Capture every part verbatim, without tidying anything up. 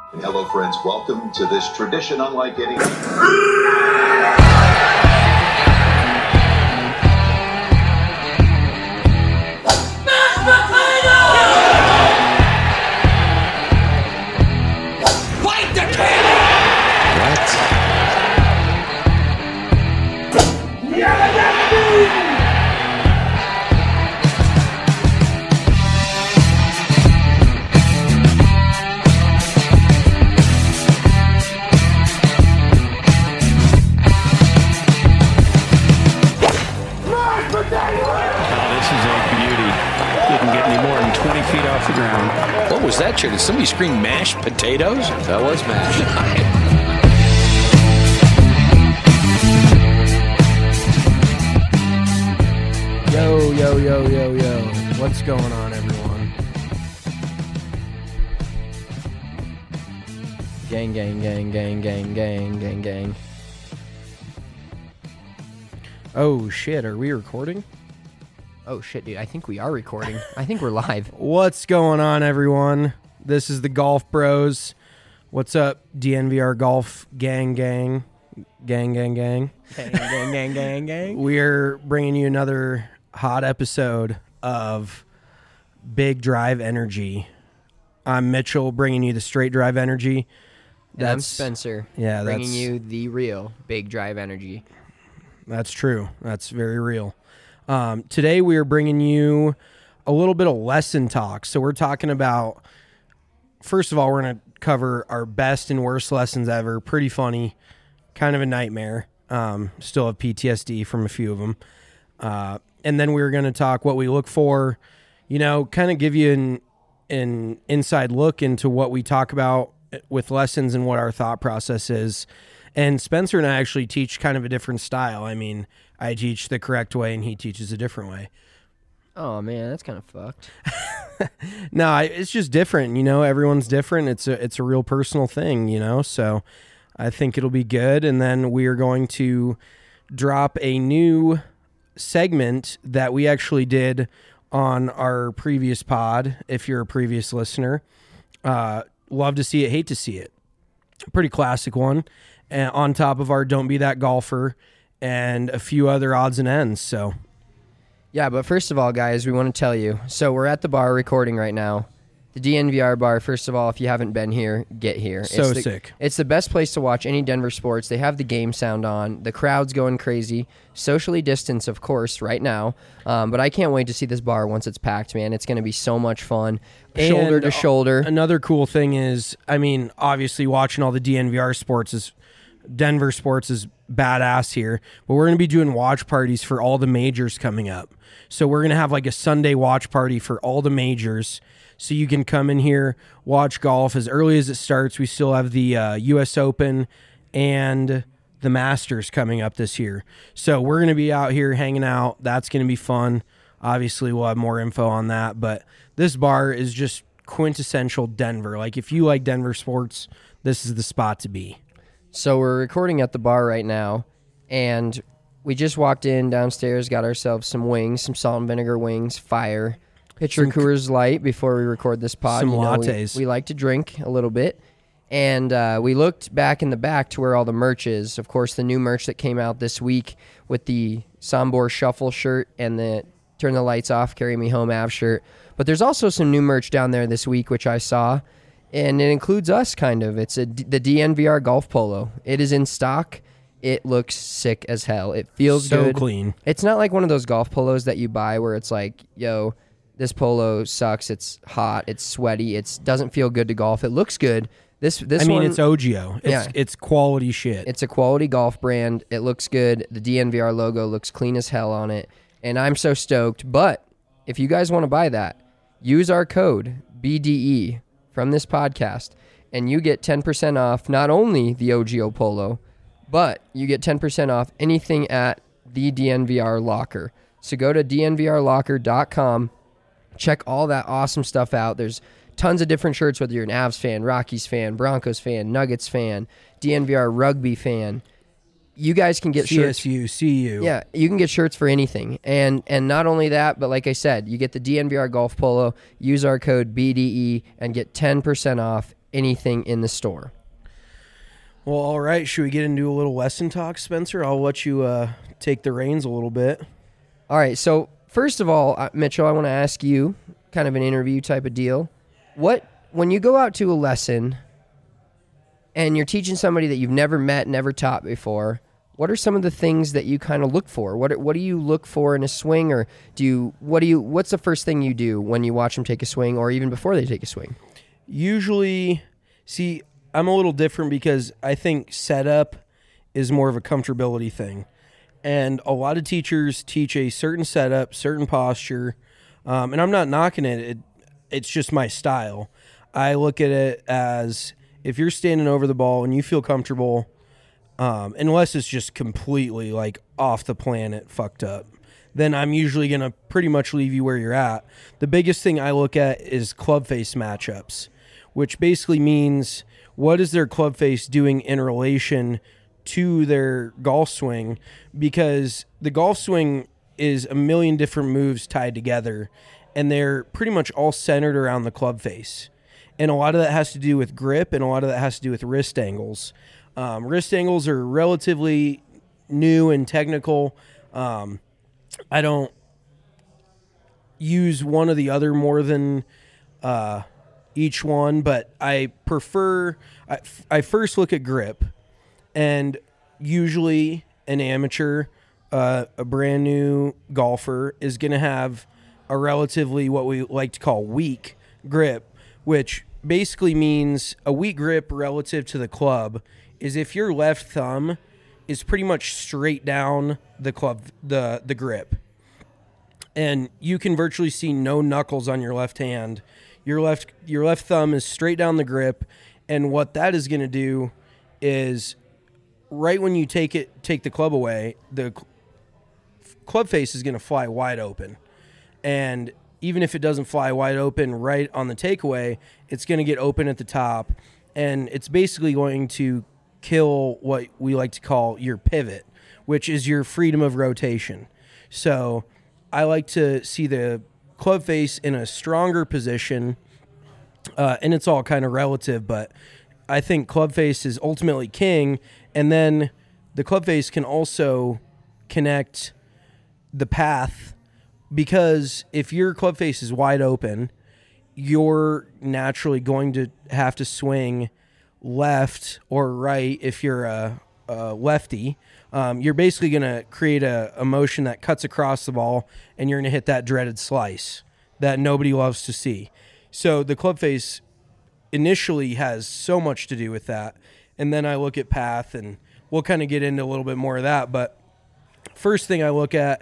Hello, friends. Welcome to this tradition unlike any. Fight the king! What? twenty feet off the ground. What was that, Chair? Did somebody scream mashed potatoes? That was mashed. Yo, yo, yo, yo, yo. What's going on, everyone? Gang, gang, gang, gang, gang, gang, gang, gang. Oh, shit. Are we recording? Oh, shit, dude. I think we are recording. I think we're live. What's going on, everyone? This is the Golf Bros. What's up, D N V R Golf Gang Gang? Gang, gang, gang. Gang, gang, gang, gang, gang. We're bringing you another hot episode of Big Drive Energy. I'm Mitchell, bringing you the straight drive energy. And I'm Spencer. Yeah, bringing that's, you the real Big Drive Energy. That's true. That's very real. Um, today we are bringing you a little bit of lesson talk. So we're talking about, first of all, we're going to cover our best and worst lessons ever. Pretty funny, kind of a nightmare. Um, still have P T S D from a few of them. Uh, and then we're going to talk what we look for, you know, kind of give you an, an inside look into what we talk about with lessons and what our thought process is. And Spencer and I actually teach kind of a different style. I mean, I teach the correct way and he teaches a different way. Oh, man, that's kind of fucked. No, it's just different. You know, everyone's different. It's a, it's a real personal thing, you know, so I think it'll be good. And then we are going to drop a new segment that we actually did on our previous pod. If you're a previous listener, uh, love to see it, hate to see it. Pretty classic one. And on top of our Don't Be That Golfer and a few other odds and ends. So, yeah, but first of all, guys, we want to tell you. So we're at the bar recording right now. The D N V R bar, first of all, if you haven't been here, get here. So it's the, sick. It's the best place to watch any Denver sports. They have the game sound on. The crowd's going crazy. Socially distanced, of course, right now. Um, but I can't wait to see this bar once it's packed, man. It's going to be so much fun. Shoulder And to shoulder. Another cool thing is, I mean, obviously watching all the D N V R sports is, Denver sports is badass here, but we're going to be doing watch parties for all the majors coming up. So we're going to have like a Sunday watch party for all the majors. So you can come in here, watch golf as early as it starts. We still have the uh, U S Open and the Masters coming up this year. So we're going to be out here hanging out. That's going to be fun. Obviously, we'll have more info on that, but this bar is just quintessential Denver. Like, if you like Denver sports, this is the spot to be. So we're recording at the bar right now, and we just walked in downstairs, got ourselves some wings, some salt and vinegar wings, fire, pitcher Some- Coors Light before we record this pod. Some You know, we- lattes. We, like to drink a little bit, and uh, we looked back in the back to where all the merch is. Of course, the new merch that came out this week with the Sombor Shuffle shirt and the Turn the Lights Off, Carry Me Home Av shirt. But there's also some new merch down there this week, which I saw. And it includes us, kind of. It's a, the D N V R Golf Polo. It is in stock. It looks sick as hell. It feels So good. clean. It's not like one of those golf polos that you buy where it's like, yo, this polo sucks. It's hot. It's sweaty. It doesn't feel good to golf. It looks good. This this I mean, one, it's O G O. It's, Yeah. it's quality shit. it's a quality golf brand. It looks good. The D N V R logo looks clean as hell on it. And I'm so stoked. But if you guys want to buy that, use our code B D E from this podcast, and you get ten percent off not only the O G O Polo, but you get ten percent off anything at the D N V R Locker. So go to D N V R locker dot com, check all that awesome stuff out. There's tons of different shirts, whether you're an Avs fan, Rockies fan, Broncos fan, Nuggets fan, D N V R rugby fan. You guys can get shirts. C S U, C U. Yeah, you can get shirts for anything. And and not only that, but like I said, you get the D N V R Golf Polo, use our code B D E, and get ten percent off anything in the store. Well, all right. Should we get into a little lesson talk, Spencer? I'll let you uh, take the reins a little bit. All right. So first of all, uh, Mitchell, I want to ask you, kind of an interview type of deal. What when you go out to a lesson and you're teaching somebody that you've never met, never taught before, what are some of the things that you kind of look for? What what do you look for in a swing, or do you what do you what's the first thing you do when you watch them take a swing, or even before they take a swing? Usually, see, I'm a little different because I think setup is more of a comfortability thing. And a lot of teachers teach a certain setup, certain posture, um, and I'm not knocking it. it. It's just my style. I look at it as if you're standing over the ball and you feel comfortable, um, unless it's just completely like off the planet fucked up, then I'm usually going to pretty much leave you where you're at. The biggest thing I look at is club face matchups, which basically means what is their club face doing in relation to their golf swing, because the golf swing is a million different moves tied together, and they're pretty much all centered around the club face. And a lot of that has to do with grip, and a lot of that has to do with wrist angles. Um, wrist angles are relatively new and technical. Um, I don't use one or the other more than uh, each one, but I prefer, I, I first look at grip, and usually an amateur, uh, a brand new golfer is going to have a relatively what we like to call weak grip, which basically means a weak grip relative to the club is if your left thumb is pretty much straight down the club, the, the grip, and you can virtually see no knuckles on your left hand. Your left, your left thumb is straight down the grip. And what that is going to do is right when you take it, take the club away, the cl- club face is going to fly wide open. And even if it doesn't fly wide open right on the takeaway, it's going to get open at the top. And it's basically going to kill what we like to call your pivot, which is your freedom of rotation. So I like to see the club face in a stronger position, uh, and it's all kind of relative, but I think club face is ultimately king, and then the club face can also connect the path, because if your club face is wide open, you're naturally going to have to swing left or right if you're a, a lefty. Um, you're basically going to create a, a motion that cuts across the ball, and you're going to hit that dreaded slice that nobody loves to see. So the club face initially has so much to do with that. And then I look at path, and we'll kind of get into a little bit more of that. But first thing I look at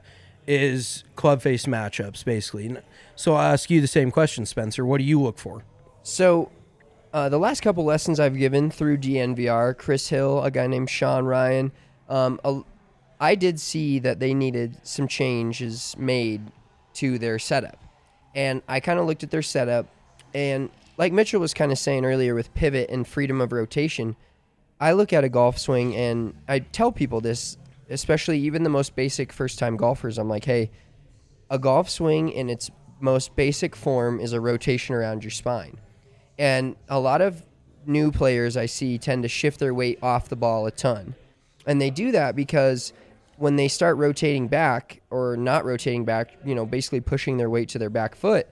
is club face matchups, basically. So I'll ask you the same question, Spencer. What do you look for? So uh, the last couple lessons I've given through D N V R, Chris Hill, a guy named Sean Ryan, um, a, I did see that they needed some changes made to their setup. And I kind of looked at their setup, and like Mitchell was kind of saying earlier with pivot and freedom of rotation, I look at a golf swing, and I tell people this, especially even the most basic first-time golfers. I'm like, hey, a golf swing in its most basic form is a rotation around your spine. And a lot of new players I see tend to shift their weight off the ball a ton. And they do that because when they start rotating back or not rotating back, you know, basically pushing their weight to their back foot,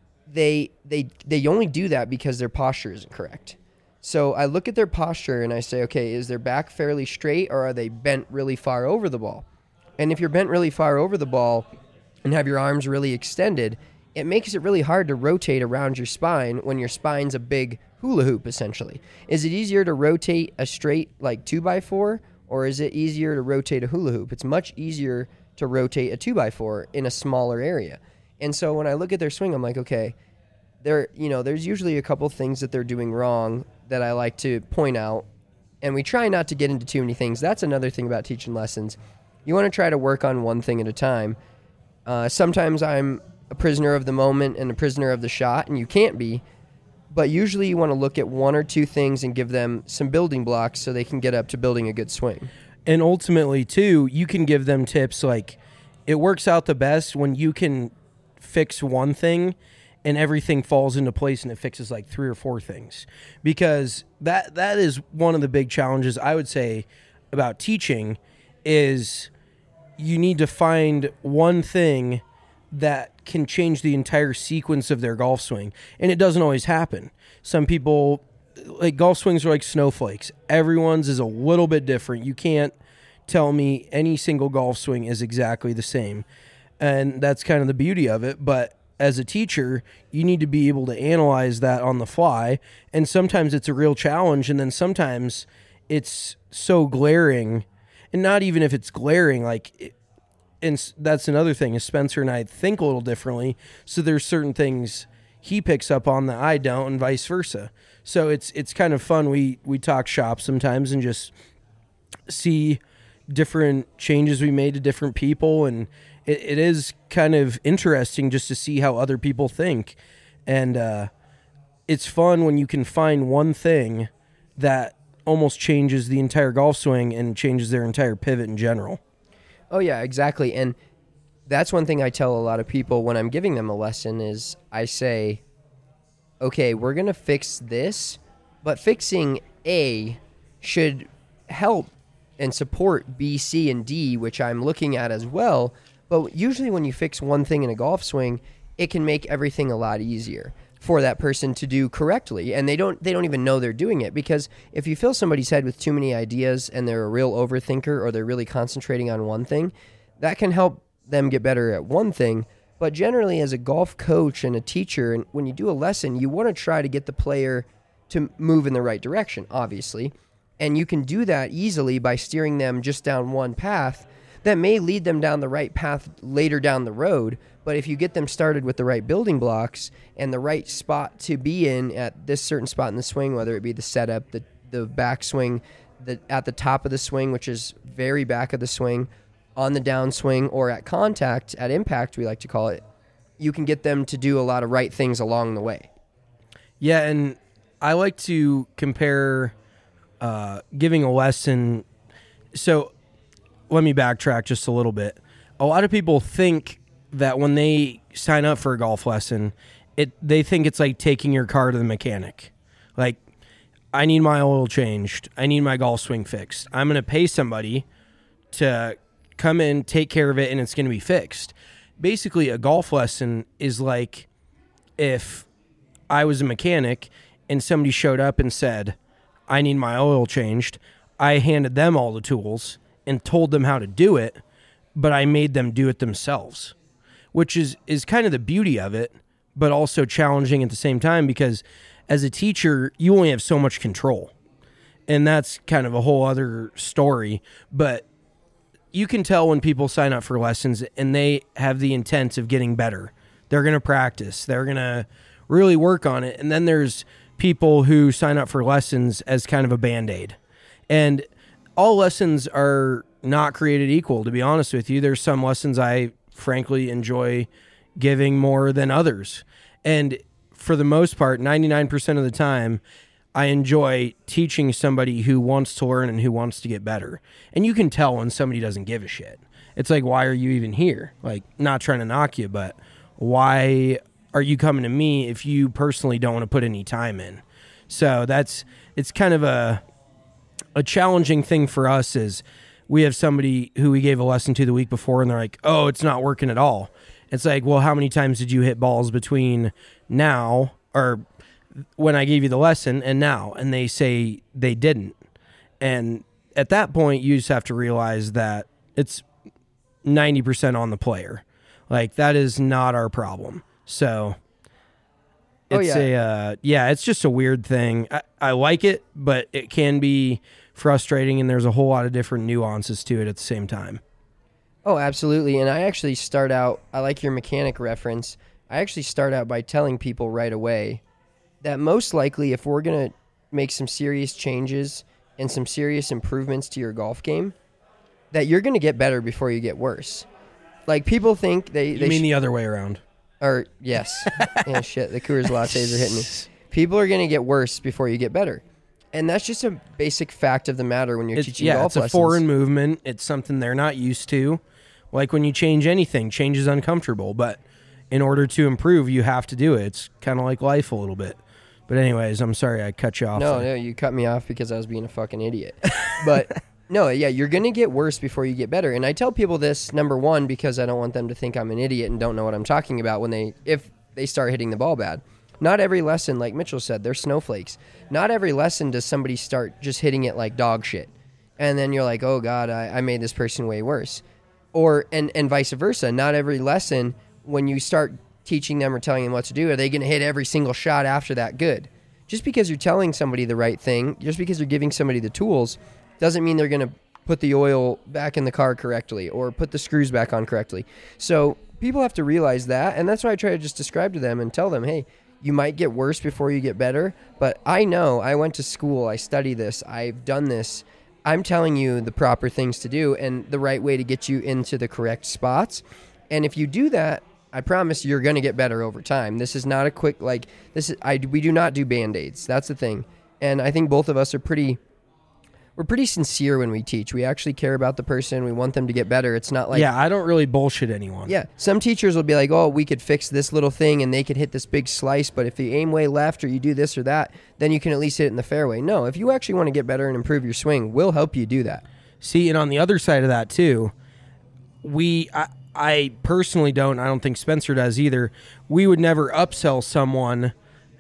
they they they only do that because their posture isn't correct. So I look at their posture and I say, okay, is their back fairly straight, or are they bent really far over the ball? And if you're bent really far over the ball and have your arms really extended, it makes it really hard to rotate around your spine when your spine's a big hula hoop, essentially. Is it easier to rotate a straight, like, two by four, or is it easier to rotate a hula hoop? It's much easier to rotate a two by four in a smaller area. And so when I look at their swing, I'm like, okay, there, you know, there's usually a couple things that they're doing wrong that I like to point out, and we try not to get into too many things. That's another thing about teaching lessons. You want to try to work on one thing at a time. Uh, sometimes I'm a prisoner of the moment and a prisoner of the shot, and you can't be, but usually you want to look at one or two things and give them some building blocks so they can get up to building a good swing. And ultimately, too, you can give them tips like it works out the best when you can fix one thing and everything falls into place and it fixes like three or four things. Because that that is one of the big challenges I would say about teaching is you need to find one thing that can change the entire sequence of their golf swing. And it doesn't always happen. Some people, like golf swings are like snowflakes. Everyone's is a little bit different. You can't tell me any single golf swing is exactly the same. And that's kind of the beauty of it. But as a teacher, you need to be able to analyze that on the fly. And sometimes it's a real challenge. And then sometimes it's so glaring. And not even if it's glaring, like, it, and that's another thing is Spencer and I think a little differently. So there's certain things he picks up on that I don't, and vice versa. So it's it's kind of fun. We we talk shop sometimes and just see different changes we made to different people, and it, it is kind of interesting just to see how other people think. And uh, it's fun when you can find one thing that almost changes the entire golf swing and changes their entire pivot in general. Oh, yeah, exactly. And that's one thing I tell a lot of people when I'm giving them a lesson is I say, okay, we're going to fix this, but fixing A should help and support B, C, and D, which I'm looking at as well. But usually when you fix one thing in a golf swing, it can make everything a lot easier for that person to do correctly. And they don't they don't even know they're doing it, because if you fill somebody's head with too many ideas and they're a real overthinker or they're really concentrating on one thing, that can help them get better at one thing. But generally, as a golf coach and a teacher, and when you do a lesson, you want to try to get the player to move in the right direction, obviously. And you can do that easily by steering them just down one path that may lead them down the right path later down the road. But if you get them started with the right building blocks and the right spot to be in at this certain spot in the swing, whether it be the setup, the the backswing, the at the top of the swing, which is very back of the swing, on the downswing, or at contact, at impact, we like to call it, you can get them to do a lot of right things along the way. Yeah, and I like to compare uh, giving a lesson. So let me backtrack just a little bit. A lot of people think that when they sign up for a golf lesson, it they think it's like taking your car to the mechanic. Like, I need my oil changed. I need my golf swing fixed. I'm going to pay somebody to come in, take care of it, and it's going to be fixed. Basically, a golf lesson is like if I was a mechanic and somebody showed up and said, I need my oil changed. I handed them all the tools and told them how to do it, but I made them do it themselves, which is, is kind of the beauty of it, but also challenging at the same time, because as a teacher, you only have so much control. And that's kind of a whole other story. But you can tell when people sign up for lessons and they have the intent of getting better. They're going to practice. They're going to really work on it. And then there's people who sign up for lessons as kind of a Band-Aid. And all lessons are not created equal, to be honest with you. There's some lessons I frankly enjoy giving more than others. And for the most part, ninety-nine percent of the time, I enjoy teaching somebody who wants to learn and who wants to get better. And you can tell when somebody doesn't give a shit. It's like, why are you even here? Like, not trying to knock you, but why are you coming to me if you personally don't want to put any time in? So that's, it's kind of a, a challenging thing for us is we have somebody who we gave a lesson to the week before and they're like, oh, it's not working at all. It's like, well, how many times did you hit balls between now or when I gave you the lesson and now? And they say they didn't. And at that point, you just have to realize that it's ninety percent on the player. Like, that is not our problem. So it's oh, yeah. a, uh, yeah, it's just a weird thing. I, I like it, but it can be frustrating, and there's a whole lot of different nuances to it at the same time. Oh, absolutely. And I actually start out, I like your mechanic reference. I actually start out by telling people right away that most likely if we're going to make some serious changes and some serious improvements to your golf game, that you're going to get better before you get worse. Like, people think they... You they mean sh- the other way around? Or, yes. Yeah, shit. The Coors Lattes are hitting me. People are going to get worse before you get better. And that's just a basic fact of the matter when you're It's, teaching yeah, golf it's a lessons. foreign movement. It's something they're not used to. Like when you change anything, change is uncomfortable. But in order to improve, you have to do it. It's kind of like life a little bit. But anyways, I'm sorry I cut you off. No, there. no, you cut me off because I was being a fucking idiot. But no, yeah, you're going to get worse before you get better. And I tell people this, number one, because I don't want them to think I'm an idiot and don't know what I'm talking about when they, if they start hitting the ball bad. Not every lesson, like Mitchell said, they're snowflakes. Not every lesson does somebody start just hitting it like dog shit. And then you're like, oh God, I, I made this person way worse. Or, and, and vice versa. Not every lesson, when you start teaching them or telling them what to do, are they going to hit every single shot after that good? Just because you're telling somebody the right thing, just because you're giving somebody the tools, doesn't mean they're going to put the oil back in the car correctly or put the screws back on correctly. So people have to realize that, and that's why I try to just describe to them and tell them, hey, you might get worse before you get better, but I know, I went to school, I study this, I've done this. I'm telling you the proper things to do and the right way to get you into the correct spots. And if you do that, I promise you're going to get better over time. This is not a quick, like, this is, I, we do not do Band-Aids. That's the thing. And I think both of us are pretty, we're pretty sincere when we teach. We actually care about the person. We want them to get better. It's not like... Yeah, I don't really bullshit anyone. Yeah, some teachers will be like, oh, we could fix this little thing and they could hit this big slice, but if you aim way left or you do this or that, then you can at least hit it in the fairway. No, if you actually want to get better and improve your swing, we'll help you do that. See, and on the other side of that too, we... I, I personally don't, I don't think Spencer does either, we would never upsell someone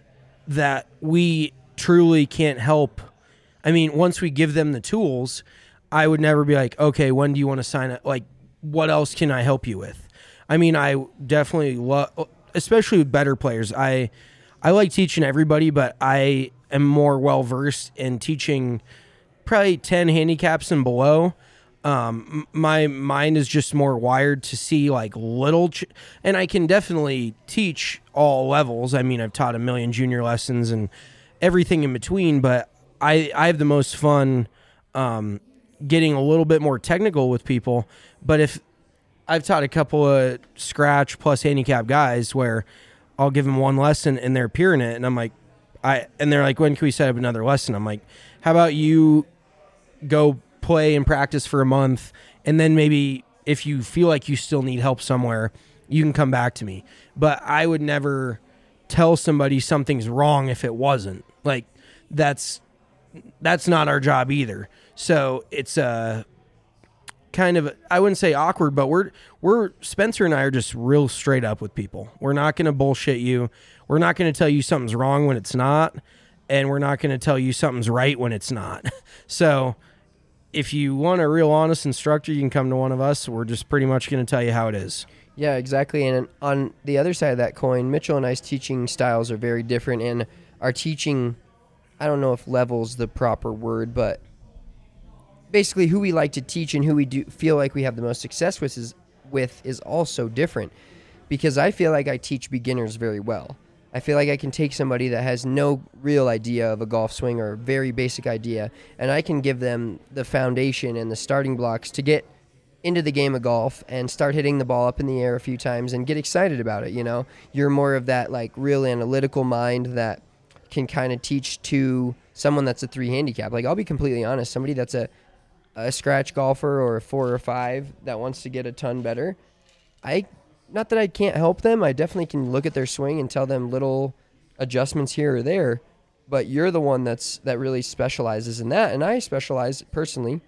that we truly can't help. I mean, once we give them the tools, I would never be like, okay, when do you want to sign up? Like, what else can I help you with? I mean, I definitely love, especially with better players, I I like teaching everybody, but I am more well-versed in teaching probably ten handicaps and below. Um, my mind is just more wired to see like little, ch- and I can definitely teach all levels. I mean, I've taught a million junior lessons and everything in between, but I, I have the most fun, um, getting a little bit more technical with people. But if I've taught a couple of scratch plus handicap guys where I'll give them one lesson and they're peering it. And I'm like, I, and they're like, when can we set up another lesson? I'm like, how about you go play and practice for a month, and then maybe if you feel like you still need help somewhere, you can come back to me. But I would never tell somebody something's wrong if it wasn't. Like, that's that's not our job either. So it's a kind of, I wouldn't say awkward, but we're we're Spencer and I are just real straight up with people. We're not going to bullshit you. We're not going to tell you something's wrong when it's not, and we're not going to tell you something's right when it's not. So if you want a real honest instructor, you can come to one of us. We're just pretty much going to tell you how it is. Yeah, exactly. And on the other side of that coin, Mitchell and I's teaching styles are very different, and our teaching, I don't know if level's the proper word, but basically who we like to teach and who we do feel like we have the most success with is, with is also different, because I feel like I teach beginners very well. I feel like I can take somebody that has no real idea of a golf swing or a very basic idea, and I can give them the foundation and the starting blocks to get into the game of golf and start hitting the ball up in the air a few times and get excited about it. You know, you're more of that like real analytical mind that can kind of teach to someone that's a three handicap. Like, I'll be completely honest, somebody that's a, a scratch golfer or a four or five that wants to get a ton better, I Not that I can't help them. I definitely can look at their swing and tell them little adjustments here or there. But you're the one that's that really specializes in that. And I specialize personally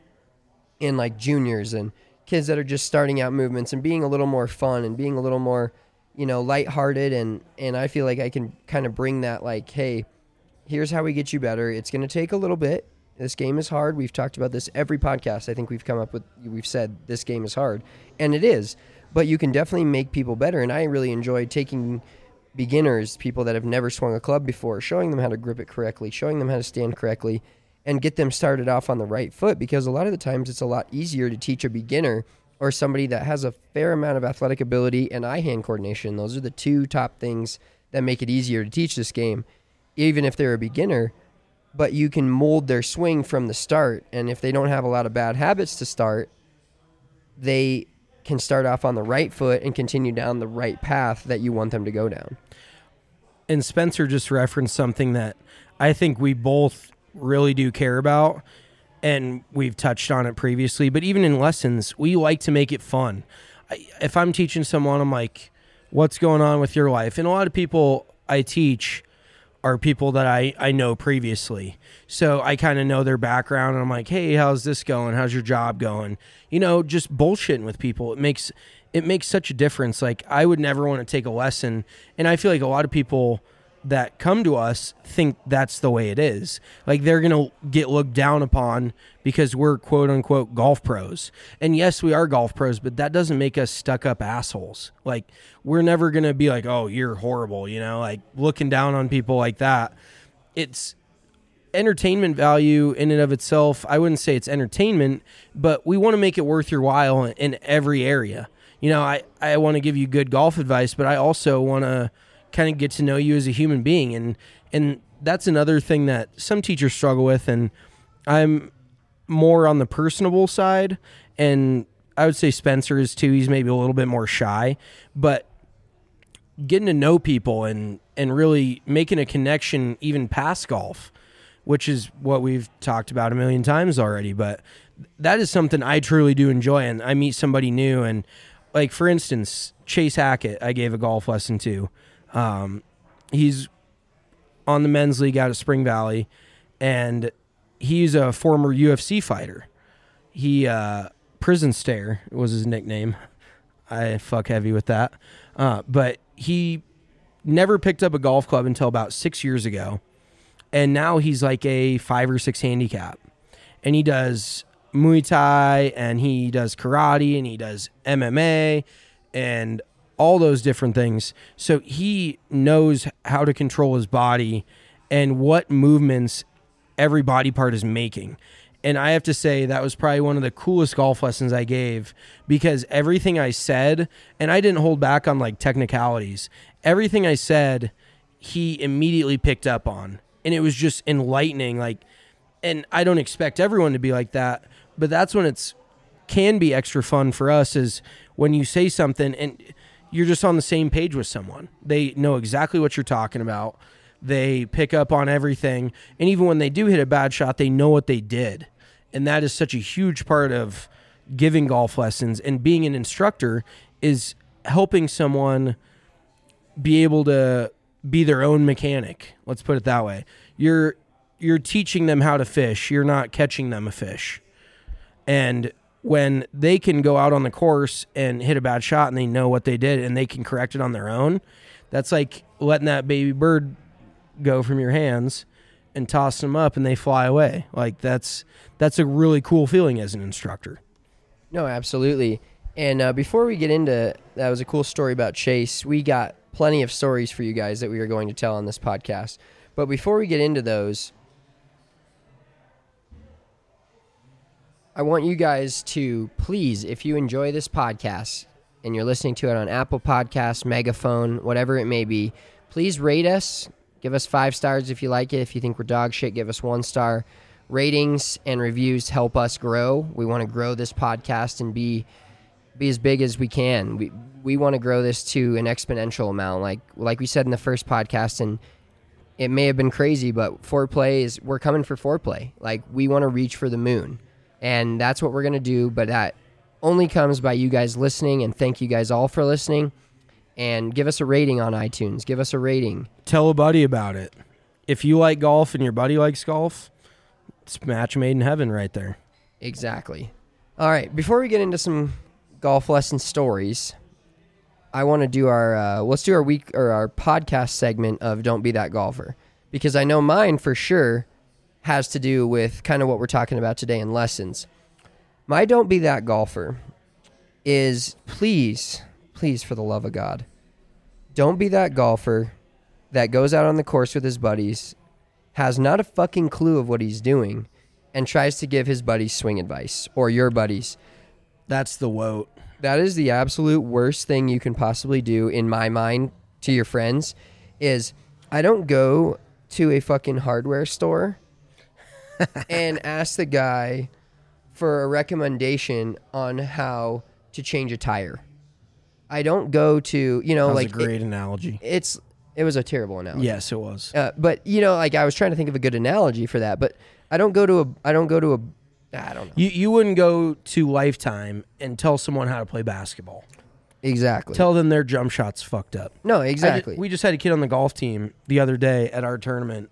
in like juniors and kids that are just starting out movements and being a little more fun and being a little more, you know, lighthearted. And, and I feel like I can kind of bring that like, hey, here's how we get you better. It's going to take a little bit. This game is hard. We've talked about this every podcast. I think we've come up with, we've said this game is hard. And it is. But you can definitely make people better, and I really enjoy taking beginners, people that have never swung a club before, showing them how to grip it correctly, showing them how to stand correctly, and get them started off on the right foot, because a lot of the times it's a lot easier to teach a beginner or somebody that has a fair amount of athletic ability and eye-hand coordination. Those are the two top things that make it easier to teach this game, even if they're a beginner. But you can mold their swing from the start, and if they don't have a lot of bad habits to start, they can start off on the right foot and continue down the right path that you want them to go down. And Spencer just referenced something that I think we both really do care about, and we've touched on it previously, but even in lessons, we like to make it fun. I, if I'm teaching someone, I'm like, what's going on with your life. And a lot of people I teach are people that I, I know previously. So I kind of know their background, and I'm like, hey, how's this going? How's your job going? You know, just bullshitting with people. It makes it makes such a difference. Like, I would never want to take a lesson, and I feel like a lot of people that come to us think that's the way it is. Like, they're going to get looked down upon because we're quote unquote golf pros. And yes, we are golf pros, but that doesn't make us stuck up assholes. Like, we're never going to be like, oh, you're horrible, you know, like looking down on people like that. It's entertainment value in and of itself. I wouldn't say it's entertainment, but we want to make it worth your while in, in every area. You know, I, I want to give you good golf advice, but I also want to kind of get to know you as a human being. And, and that's another thing that some teachers struggle with. And I'm more on the personable side. And I would say Spencer is too. He's maybe a little bit more shy, but getting to know people and, and really making a connection even past golf, which is what we've talked about a million times already. But that is something I truly do enjoy. And I meet somebody new. And like, for instance, Chase Hackett, I gave a golf lesson to. Um, he's on the men's league out of Spring Valley, and he's a former U F C fighter. He, uh, Prison Stare was his nickname. I fuck heavy with that. Uh, but he never picked up a golf club until about six years ago. And now he's like a five or six handicap, and he does Muay Thai, and he does karate, and he does M M A, and all those different things. So he knows how to control his body and what movements every body part is making. And I have to say that was probably one of the coolest golf lessons I gave, because everything I said, and I didn't hold back on like technicalities, everything I said, he immediately picked up on. And it was just enlightening. Like, and I don't expect everyone to be like that, but that's when it's can be extra fun for us, is when you say something and you're just on the same page with someone. They know exactly what you're talking about. They pick up on everything. And even when they do hit a bad shot, they know what they did. And that is such a huge part of giving golf lessons and being an instructor, is helping someone be able to be their own mechanic. Let's put it that way. You're you're teaching them how to fish. You're not catching them a fish. And when they can go out on the course and hit a bad shot and they know what they did and they can correct it on their own, that's like letting that baby bird go from your hands and toss them up and they fly away. Like, that's that's a really cool feeling as an instructor. No, absolutely. And uh, before we get into, that was a cool story about Chase. We got plenty of stories for you guys that we are going to tell on this podcast. But before we get into those, I want you guys to please, if you enjoy this podcast and you're listening to it on Apple Podcasts, Megaphone, whatever it may be, please rate us. Give us five stars if you like it. If you think we're dog shit, give us one star. Ratings and reviews help us grow. We want to grow this podcast and be be as big as we can. We we want to grow this to an exponential amount, like like we said in the first podcast. And it may have been crazy, but foreplay is we're coming for foreplay. Like, we want to reach for the moon. And that's what we're going to do, but that only comes by you guys listening, and thank you guys all for listening. And give us a rating on iTunes. Give us a rating. Tell a buddy about it. If you like golf and your buddy likes golf, it's match made in heaven right there. Exactly. All right, before we get into some golf lesson stories, I want to do our, uh, let's do our week or our podcast segment of Don't Be That Golfer, because I know mine for sure has to do with kind of what we're talking about today in lessons. My Don't Be That Golfer is, please, please, for the love of God, don't be that golfer that goes out on the course with his buddies, has not a fucking clue of what he's doing, and tries to give his buddies swing advice, or your buddies. That's the woat. That is the absolute worst thing you can possibly do, in my mind, to your friends, is I don't go to a fucking hardware store and ask the guy for a recommendation on how to change a tire. I don't go to, you know, that was like a great it, analogy. It's it was a terrible analogy. Yes, it was. Uh, but you know, like I was trying to think of a good analogy for that, but I don't go to a I don't go to a I don't know. You you wouldn't go to Lifetime and tell someone how to play basketball. Exactly. Tell them their jump shot's fucked up. no, I ju- exactly. we just had a kid on the golf team the other day at our tournament,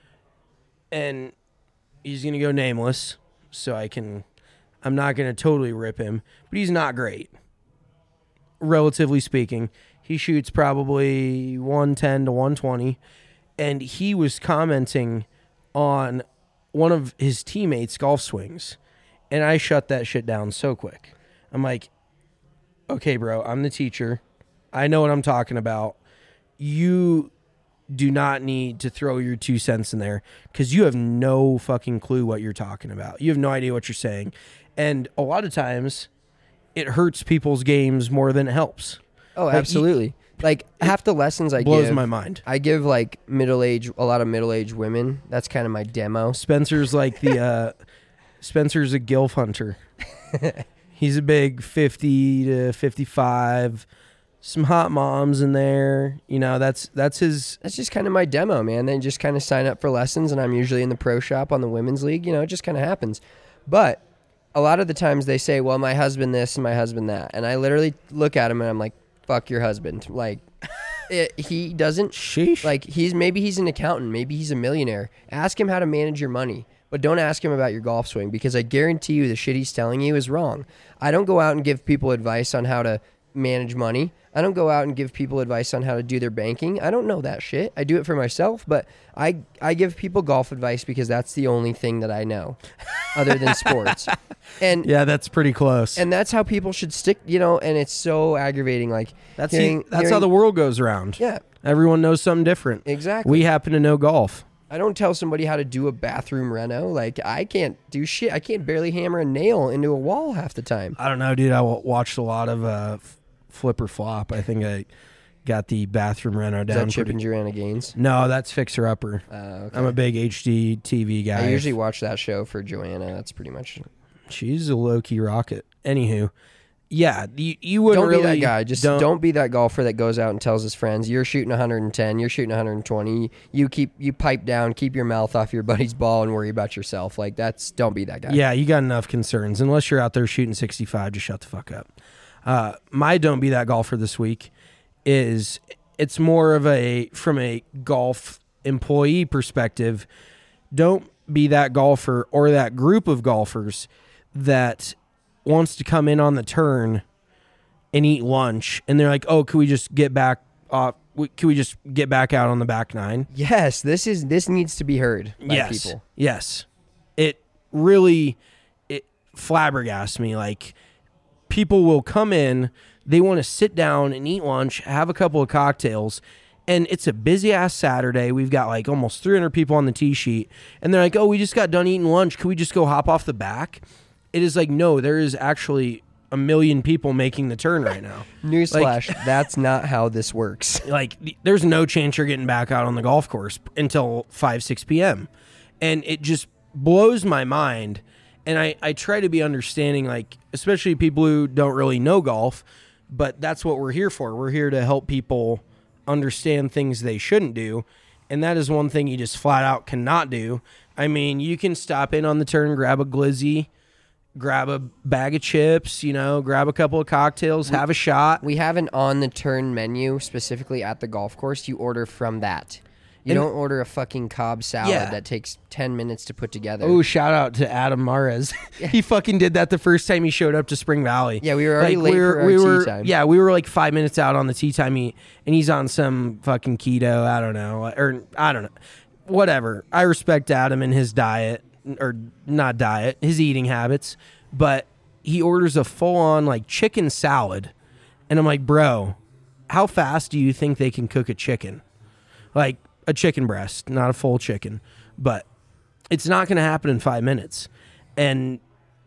and he's going to go nameless, so I can, I'm not going to totally rip him, but he's not great. Relatively speaking, he shoots probably one ten to one twenty, and he was commenting on one of his teammates' golf swings, and I shut that shit down so quick. I'm like, okay, bro, I'm the teacher. I know what I'm talking about. You do not need to throw your two cents in there because you have no fucking clue what you're talking about. You have no idea what you're saying. And a lot of times it hurts people's games more than it helps. oh, like, you- absolutely. Like half the lessons I Blows give, my mind. I give like middle age, a lot of middle aged women. That's kind of my demo. Spencer's like the, uh, Spencer's a gilf hunter. He's a big fifty to fifty-five, some hot moms in there. You know, that's that's his. That's just kind of my demo, man. They just kind of sign up for lessons, and I'm usually in the pro shop on the women's league. You know, it just kind of happens. But a lot of the times they say, well, my husband this and my husband that. And I literally look at him and I'm like, fuck your husband. Like, it, he doesn't. Sheesh. Like, he's maybe he's an accountant. Maybe he's a millionaire. Ask him how to manage your money. But don't ask him about your golf swing because I guarantee you the shit he's telling you is wrong. I don't go out and give people advice on how to manage money. I don't go out and give people advice on how to do their banking. I don't know that shit. I do it for myself, but I I give people golf advice because that's the only thing that I know other than sports. And Yeah, that's pretty close. and that's how people should stick, you know, and it's so aggravating like that's hearing, that's hearing- how the world goes around. Yeah, Everyone knows something different. exactly. We happen to know golf. I don't tell somebody how to do a bathroom reno. Like, I can't do shit. I can't barely hammer a nail into a wall half the time. I don't know, dude. I w- watched a lot of uh, f- Flip or Flop. I think I got the bathroom reno Is down. that Chip pretty- and Joanna Gaines? No, that's Fixer Upper. Uh, okay. I'm a big H D T V guy. I usually watch that show for Joanna. That's pretty much. She's a low key rocket. Anywho, yeah, you, you wouldn't Don't really be that guy. Just don't, be that golfer that goes out and tells his friends, "You're shooting one hundred ten. You're shooting one hundred twenty. You keep you pipe down, keep your mouth off your buddy's ball, and worry about yourself." Like that's don't be that guy. Yeah, you got enough concerns. Unless you're out there shooting sixty-five, just shut the fuck up. Uh, my don't be that golfer this week is it's more of a from a golf employee perspective. Don't be that golfer or that group of golfers that wants to come in on the turn and eat lunch, and they're like, "Oh, can we just get back? Uh, can we just get back out on the back nine?" Yes, this is this needs to be heard by yes, people. yes. It really it flabbergasts me. Like people will come in, they want to sit down and eat lunch, have a couple of cocktails, and it's a busy ass Saturday. We've got like almost three hundred people on the tee sheet, and they're like, "Oh, we just got done eating lunch. Can we just go hop off the back?" It is like, no, there is actually a million people making the turn right now. Newsflash: that's not how this works. Like, there's no chance you're getting back out on the golf course until five, six p.m. And it just blows my mind. And I, I try to be understanding, like, especially people who don't really know golf, but that's what we're here for. We're here to help people understand things they shouldn't do. And that is one thing you just flat out cannot do. I mean, you can stop in on the turn, grab a glizzy, grab a bag of chips, you know, grab a couple of cocktails, have a shot. We have an on-the-turn menu specifically at the golf course. You order from that. You And- don't order a fucking Cobb salad Yeah. that takes ten minutes to put together. Oh, shout out to Adam Mares. He fucking did that the first time he showed up to Spring Valley. Yeah, we were already Like, late we were, for our we tea were, time. Yeah, we were like five minutes out on the tea time eat, and he's on some fucking keto. I don't know. Or I don't know. Whatever. I respect Adam and his diet, or not diet, his eating habits. But he orders a full-on like chicken salad. And I'm like, bro, how fast do you think they can cook a chicken? Like a chicken breast, not a full chicken. But it's not going to happen in five minutes. And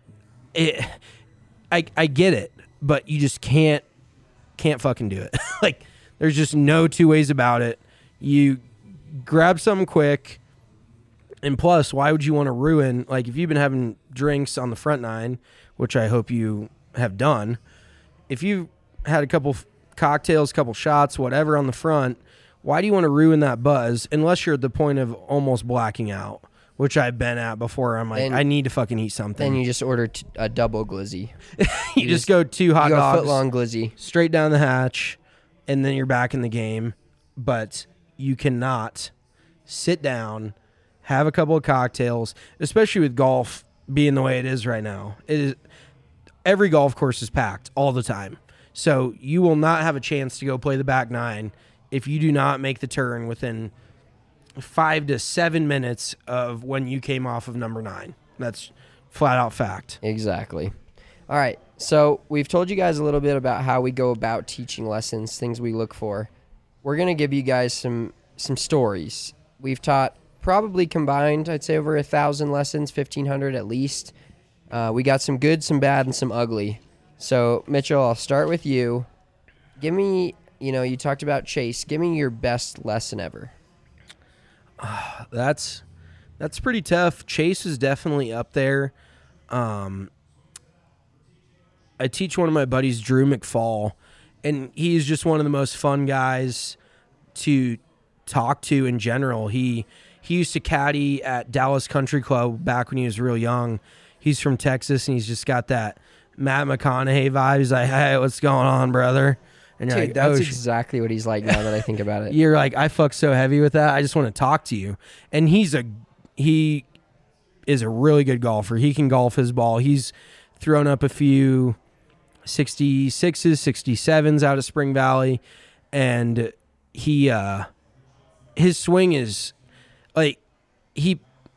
it, I, I get it, but you just can't, can't fucking do it. Like, there's just no two ways about it. You grab something quick, and plus, why would you want to ruin, like, if you've been having drinks on the front nine, which I hope you have done, if you had a couple cocktails, couple shots, whatever on the front, why do you want to ruin that buzz unless you're at the point of almost blacking out? which I've been at before. I'm like, And- I need to fucking eat something. Then you just order t- a double glizzy. you just go two hot You go dogs, foot long glizzy. straight down the hatch, and then you're back in the game. But you cannot sit down, have a couple of cocktails, especially with golf being the way it is right now. It is every golf course is packed all the time. So you will not have a chance to go play the back nine if you do not make the turn within five to seven minutes of when you came off of number nine. That's flat out fact. Exactly. All right. So we've told you guys a little bit about how we go about teaching lessons, things we look for. We're going to give you guys some some stories. We've taught probably combined, I'd say over a thousand lessons, fifteen hundred at least. Uh, we got some good, some bad, and some ugly. So Mitchell, I'll start with you. Give me, you know, you talked about Chase. Give me your best lesson ever. That's that's pretty tough. Chase is definitely up there. Um, I teach one of my buddies, Drew McFall, and he's just one of the most fun guys to talk to in general. He he used to caddy at Dallas Country Club back when he was real young. He's from Texas, and he's just got that Matt McConaughey vibe. He's like, hey, what's going on, brother? And you're Dude, like, that's oh, sh- exactly what he's like now that I think about it. you're like, I fuck so heavy with that. I just want to talk to you. And he's a he is a really good golfer. He can golf his ball. He's thrown up a few sixty-sixes, sixty-sevens out of Spring Valley, and he uh his swing is like he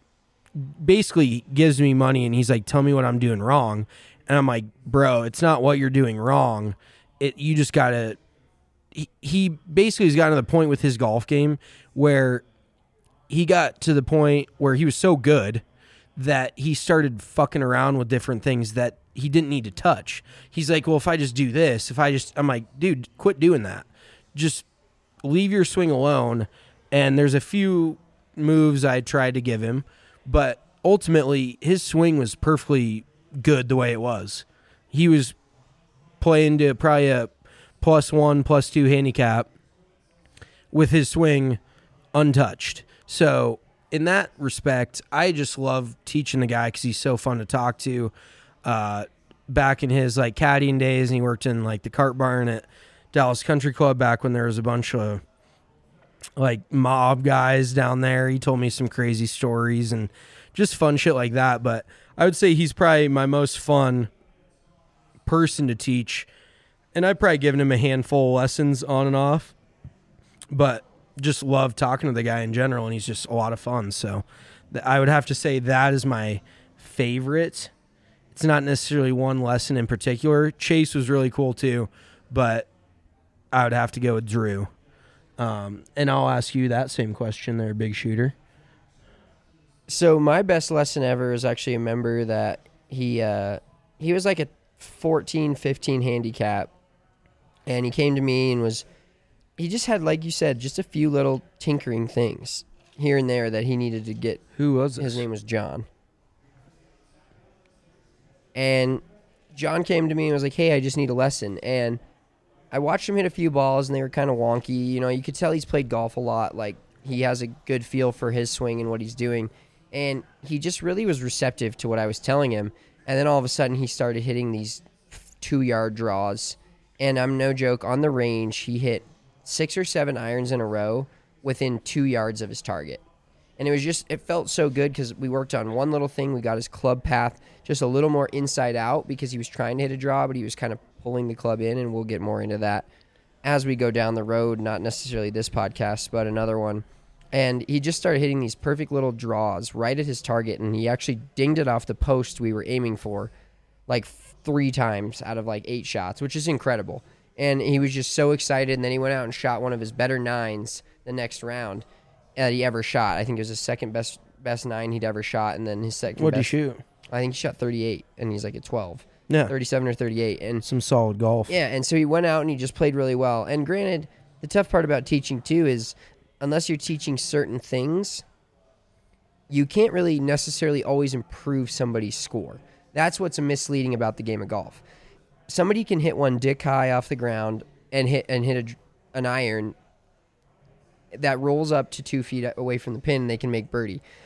basically gives me money and he's like, tell me what I'm doing wrong. And I'm like, bro, it's not what you're doing wrong. It you just gotta he, he basically has gotten to the point with his golf game where he got to the point where he was so good that he started fucking around with different things that he didn't need to touch. He's like, well, if I just do this, if I just, I'm like, dude, quit doing that. Just leave your swing alone. And there's a few moves I tried to give him, but ultimately his swing was perfectly good the way it was. He was playing to probably a plus one, plus two handicap with his swing untouched. So in that respect, I just love teaching the guy because he's so fun to talk to. Uh, back in his like caddying days, and he worked in like the cart barn at Dallas Country Club back when there was a bunch of like mob guys down there. He told me some crazy stories and just fun shit like that. But I would say he's probably my most fun person to teach. And I've probably given him a handful of lessons on and off, but just love talking to the guy in general, and he's just a lot of fun. So th- I would have to say that is my favorite. It's not necessarily one lesson in particular. Chase was really cool too, but I would have to go with Drew. Um, and I'll ask you that same question there, big shooter. So my best lesson ever is actually a member that he uh, he was like a fourteen, fifteen handicap, and he came to me and was he just had, like you said, just a few little tinkering things here and there that he needed to get. Who was this? His name was John. And John came to me and was like, hey, I just need a lesson. And I watched him hit a few balls, and they were kind of wonky. You know, you could tell he's played golf a lot. Like, he has a good feel for his swing and what he's doing. And he just really was receptive to what I was telling him. And then all of a sudden, he started hitting these two-yard draws. And I'm no joke, on the range, he hit six or seven irons in a row within two yards of his target. And it was just, it felt so good because we worked on one little thing. We got his club path just a little more inside out because he was trying to hit a draw, but he was kind of pulling the club in, and we'll get more into that as we go down the road, not necessarily this podcast, but another one. And he just started hitting these perfect little draws right at his target, and he actually dinged it off the post we were aiming for like three times out of like eight shots, which is incredible. And he was just so excited, and then he went out and shot one of his better nines the next round that he ever shot. I think it was his second best best nine he'd ever shot, and then his second What'd he best. shoot? I think he shot thirty-eight, and he's like at twelve. Yeah. thirty-seven or thirty-eight. And Some solid golf. yeah, and so he went out and he just played really well. And granted, the tough part about teaching too is unless you're teaching certain things, you can't really necessarily always improve somebody's score. That's what's misleading about the game of golf. Somebody can hit one dick high off the ground and hit and hit a, an iron that rolls up to two feet away from the pin, and they can make birdie.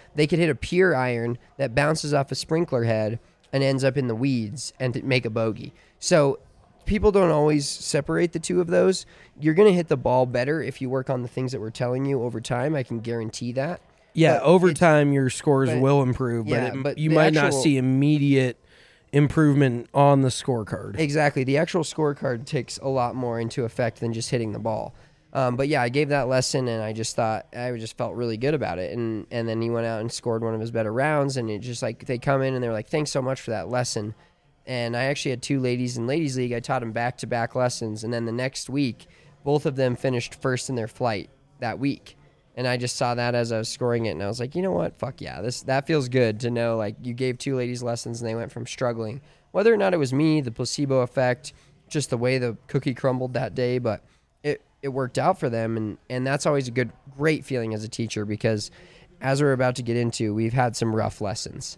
they could hit a pure iron that bounces off a sprinkler head and ends up in the weeds and to make a bogey. So people don't always separate the two of those. You're going to hit the ball better if you work on the things that we're telling you over time. I can guarantee that. Yeah, But over it's- time your scores but- will improve, but, yeah, it, but you the might not actual- see immediate improvement on the scorecard. Exactly. The actual scorecard takes a lot more into effect than just hitting the ball. Um, but yeah, I gave that lesson, and I just thought I just felt really good about it. And and then he went out and scored one of his better rounds, and it just like they come in and they're like, "Thanks so much for that lesson." And I actually had two ladies in ladies league. I taught them back to back lessons, and then the next week, both of them finished first in their flight that week. And I just saw that as I was scoring it, and I was like, you know what? Fuck yeah, this that feels good to know. Like you gave two ladies lessons, and they went from struggling, whether or not it was me, the placebo effect, just the way the cookie crumbled that day, but it it worked out for them, and and that's always a good, great feeling as a teacher because, as we're about to get into, we've had some rough lessons.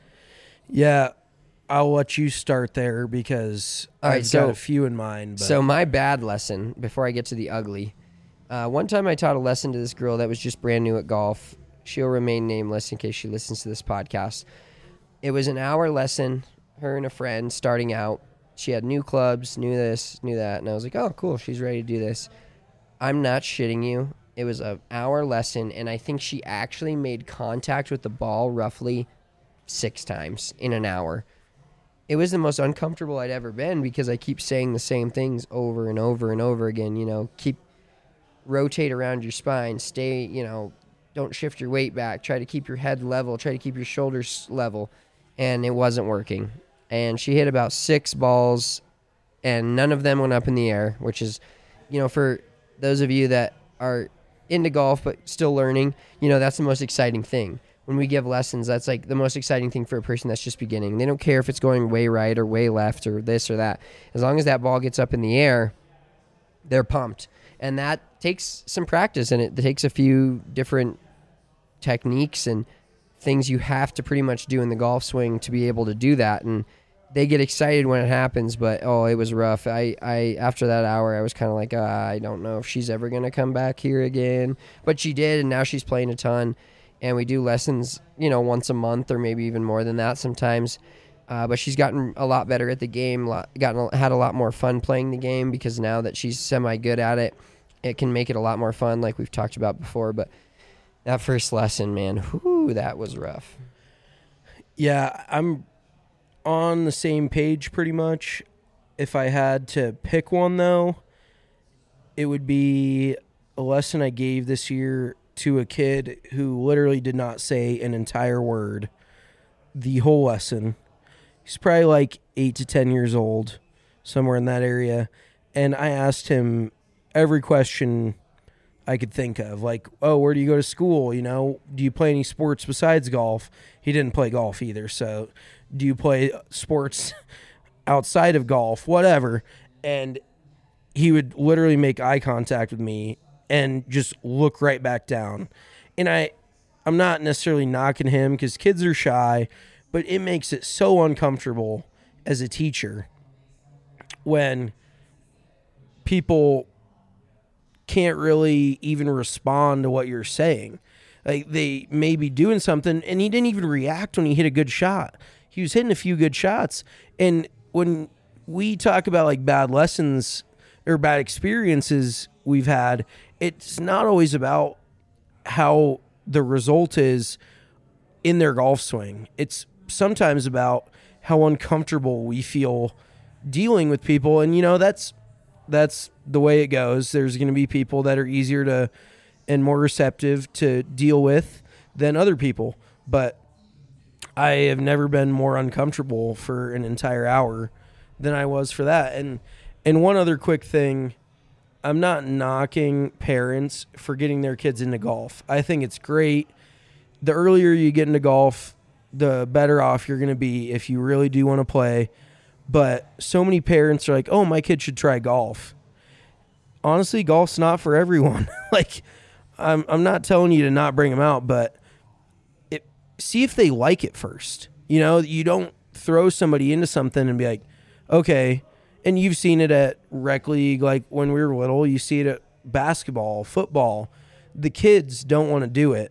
Yeah, I'll let you start there because All right, I've so- got a few in mind. But. So my bad lesson, before I get to the ugly, uh, one time I taught a lesson to this girl that was just brand new at golf. She'll remain nameless in case she listens to this podcast. It was an hour lesson, her and a friend starting out. She had new clubs, knew this, knew that, and I was like, oh, cool, she's ready to do this. I'm not shitting you. It was an hour lesson, and I think she actually made contact with the ball roughly six times in an hour. It was the most uncomfortable I'd ever been because I keep saying the same things over and over and over again. You know, keep rotate around your spine, stay, you know, don't shift your weight back, try to keep your head level, try to keep your shoulders level, and it wasn't working. And she hit about six balls, and none of them went up in the air, which is, you know, for those of you that are into golf but still learning, you know, that's the most exciting thing. When we give lessons, that's like the most exciting thing for a person that's just beginning. They don't care if it's going way right or way left or this or that. As long as that ball gets up in the air, they're pumped. And that takes some practice, and it takes a few different techniques and things you have to pretty much do in the golf swing to be able to do that. And they get excited when it happens, but oh, it was rough. I, I after that hour, I was kind of like, uh, I don't know if she's ever going to come back here again. But she did, and now she's playing a ton. And we do lessons, you know, once a month or maybe even more than that sometimes. Uh, but she's gotten a lot better at the game, lot, gotten had a lot more fun playing the game because now that she's semi-good at it, it can make it a lot more fun like we've talked about before. But that first lesson, man, whoo, that was rough. Yeah, I'm on the same page pretty much. If I had to pick one, though, it would be a lesson I gave this year to a kid who literally did not say an entire word the whole lesson. He's probably like eight to ten years old, somewhere in that area. And I asked him every question I could think of, like, oh, where do you go to school? You know, do you play any sports besides golf? He didn't play golf either. So do you play sports outside of golf? Whatever. And he would literally make eye contact with me and just look right back down. And I, I'm not necessarily knocking him because kids are shy, but it makes it so uncomfortable as a teacher when people can't really even respond to what you're saying. Like they may be doing something, and he didn't even react when he hit a good shot. He was hitting a few good shots. And when we talk about like bad lessons or bad experiences we've had, it's not always about how the result is in their golf swing. It's sometimes about how uncomfortable we feel dealing with people. And, you know, that's that's the way it goes. There's going to be people that are easier to and more receptive to deal with than other people. But I have never been more uncomfortable for an entire hour than I was for that. And and one other quick thing, I'm not knocking parents for getting their kids into golf. I think it's great. The earlier you get into golf, the better off you're going to be if you really do want to play. But so many parents are like, oh, my kid should try golf. Honestly, golf's not for everyone. Like, I'm I'm not telling you to not bring them out, but it, see if they like it first. You know, you don't throw somebody into something and be like, okay. And you've seen it at rec league, like when we were little. You see it at basketball, football. The kids don't want to do it,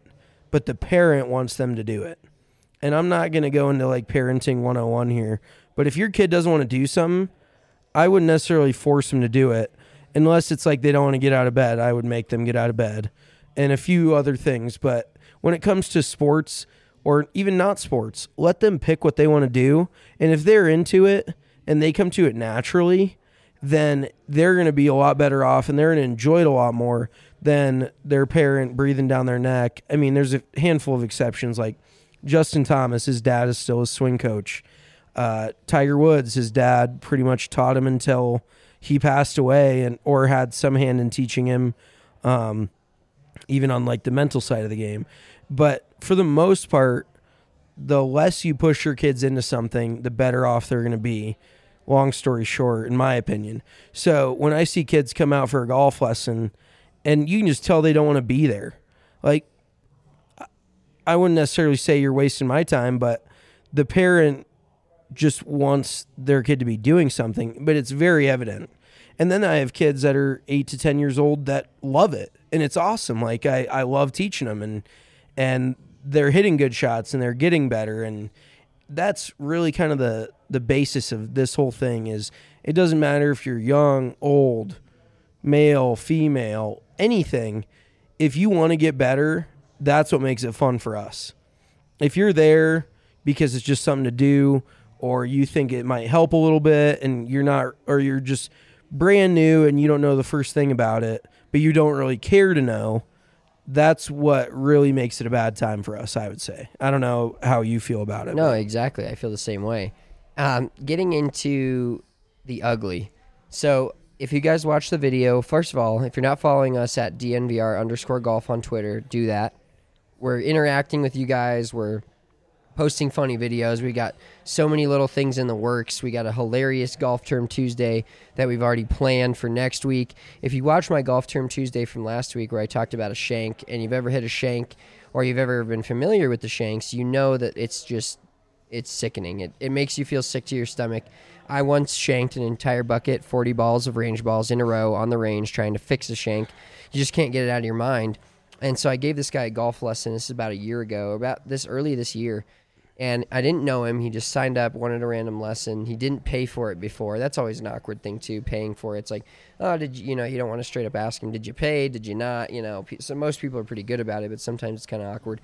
but the parent wants them to do it. And I'm not going to go into like parenting one oh one here, but if your kid doesn't want to do something, I wouldn't necessarily force them to do it unless it's like they don't want to get out of bed. I would make them get out of bed and a few other things. But when it comes to sports or even not sports, let them pick what they want to do. And if they're into it and they come to it naturally, then they're going to be a lot better off and they're going to enjoy it a lot more than their parent breathing down their neck. I mean, there's a handful of exceptions like Justin Thomas, his dad is still a swing coach. Uh, Tiger Woods, his dad pretty much taught him until he passed away and or had some hand in teaching him, um, even on like the mental side of the game. But for the most part, the less you push your kids into something, the better off they're going to be. Long story short, in my opinion. So when I see kids come out for a golf lesson and you can just tell they don't want to be there, like, I wouldn't necessarily say you're wasting my time, but the parent just wants their kid to be doing something, but it's very evident. And then I have kids that are eight to ten years old that love it, and it's awesome. Like I, I love teaching them, and and they're hitting good shots and they're getting better, and that's really kind of the the basis of this whole thing. Is it doesn't matter if you're young, old, male, female, anything. If you want to get better, that's what makes it fun for us. If you're there because it's just something to do, or you think it might help a little bit and you're not, or you're just brand new and you don't know the first thing about it, but you don't really care to know, that's what really makes it a bad time for us, I would say. I don't know how you feel about it. No, but. exactly. I feel the same way. Um, getting into the ugly. So if you guys watch the video, first of all, if you're not following us at D N V R underscore golf on Twitter, do that. We're interacting with you guys. We're posting funny videos. We got so many little things in the works. We got a hilarious Golf Term Tuesday that we've already planned for next week. If you watch my Golf Term Tuesday from last week where I talked about a shank, and you've ever hit a shank or you've ever been familiar with the shanks, you know that it's just, it's sickening. It, it makes you feel sick to your stomach. I once shanked an entire bucket, forty balls of range balls in a row on the range trying to fix a shank. You just can't get it out of your mind. And so I gave this guy a golf lesson. This is about a year ago, about this early this year. And I didn't know him. He just signed up, wanted a random lesson. He didn't pay for it before. That's always an awkward thing, too, paying for it. It's like, oh, did you, you know, you don't want to straight up ask him, did you pay? Did you not? You know, so most people are pretty good about it, but sometimes it's kind of awkward.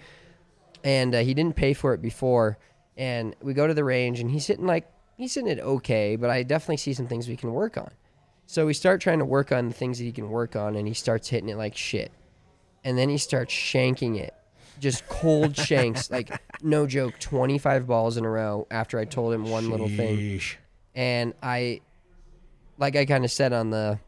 And uh, he didn't pay for it before. And we go to the range, and he's hitting like, he's hitting it okay, but I definitely see some things we can work on. So we start trying to work on the things that he can work on, and he starts hitting it like shit. And then he starts shanking it. Just cold shanks, like no joke, twenty-five balls in a row after I told him one Sheesh. little thing. And I, like I kind of said on the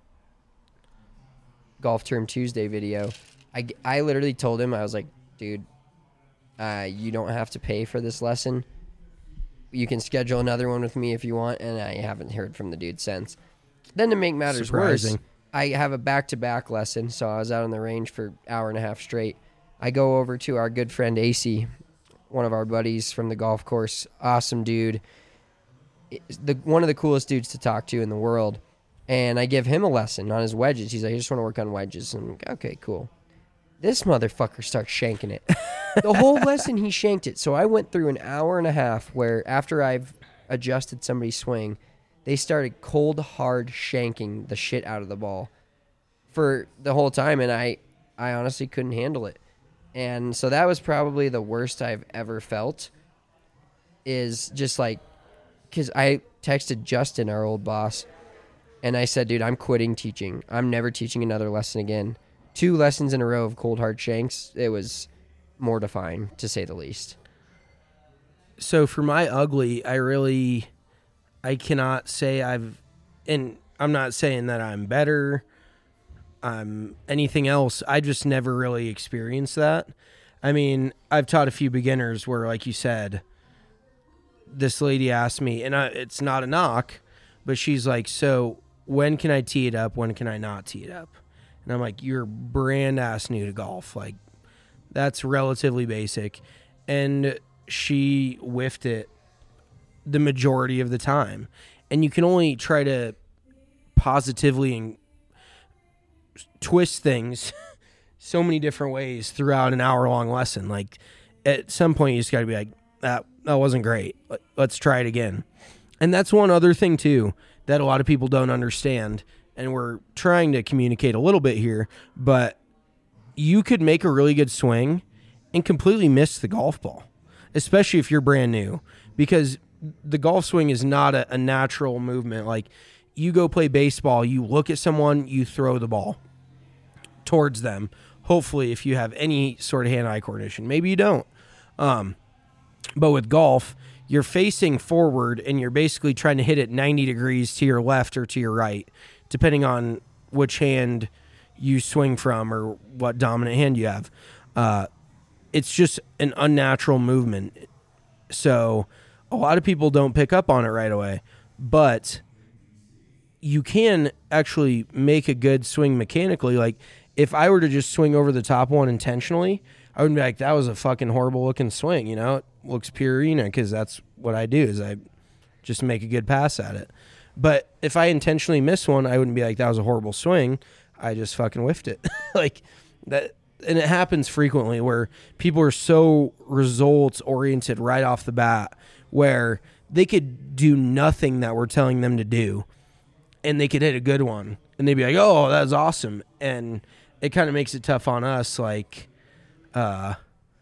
Golf Term Tuesday video, I, I literally told him, I was like, dude, uh, you don't have to pay for this lesson. You can schedule another one with me if you want, and I haven't heard from the dude since. Then to make matters Surprising. worse, I have a back-to-back lesson, so I was out on the range for an hour and a half straight. I go over to our good friend A C, one of our buddies from the golf course. Awesome dude. The, one of the coolest dudes to talk to in the world. And I give him a lesson on his wedges. He's like, I just want to work on wedges. And I'm like, okay, cool. This motherfucker starts shanking it. The whole lesson, he shanked it. So I went through an hour and a half where after I've adjusted somebody's swing, they started cold, hard shanking the shit out of the ball for the whole time. And I, I honestly couldn't handle it. And so that was probably the worst I've ever felt, is just like, because I texted Justin, our old boss, and I said, dude, I'm quitting teaching. I'm never teaching another lesson again. Two lessons in a row of cold, hard shanks. It was mortifying, to say the least. So for my ugly, I really, I cannot say I've, and I'm not saying that I'm better, Um, anything else. I just never really experienced that. I mean, I've taught a few beginners where, like you said, this lady asked me, and I, it's not a knock, but she's like, so when can I tee it up? When can I not tee it up? And I'm like, you're brand ass new to golf. Like, that's relatively basic. And she whiffed it the majority of the time. And you can only try to positively and twist things so many different ways throughout an hour long lesson. Like at some point you just got to be like, that, that wasn't great. Let's try it again. And that's one other thing too, that a lot of people don't understand. And we're trying to communicate a little bit here, but you could make a really good swing and completely miss the golf ball, especially if you're brand new, because the golf swing is not a, a natural movement. Like you go play baseball, you look at someone, you throw the ball towards them. Hopefully, if you have any sort of hand-eye coordination, maybe you don't. Um, but with golf, you're facing forward and you're basically trying to hit it ninety degrees to your left or to your right, depending on which hand you swing from or what dominant hand you have. Uh, it's just an unnatural movement. So a lot of people don't pick up on it right away, but you can actually make a good swing mechanically. Like if I were to just swing over the top one intentionally, I would be like, that was a fucking horrible looking swing. You know, it looks pure arena because that's what I do is I just make a good pass at it. But if I intentionally miss one, I wouldn't be like, that was a horrible swing. I just fucking whiffed it. Like that. And it happens frequently where people are so results oriented right off the bat where they could do nothing that we're telling them to do and they could hit a good one and they'd be like, oh, that's awesome. And it kind of makes it tough on us. Like, uh,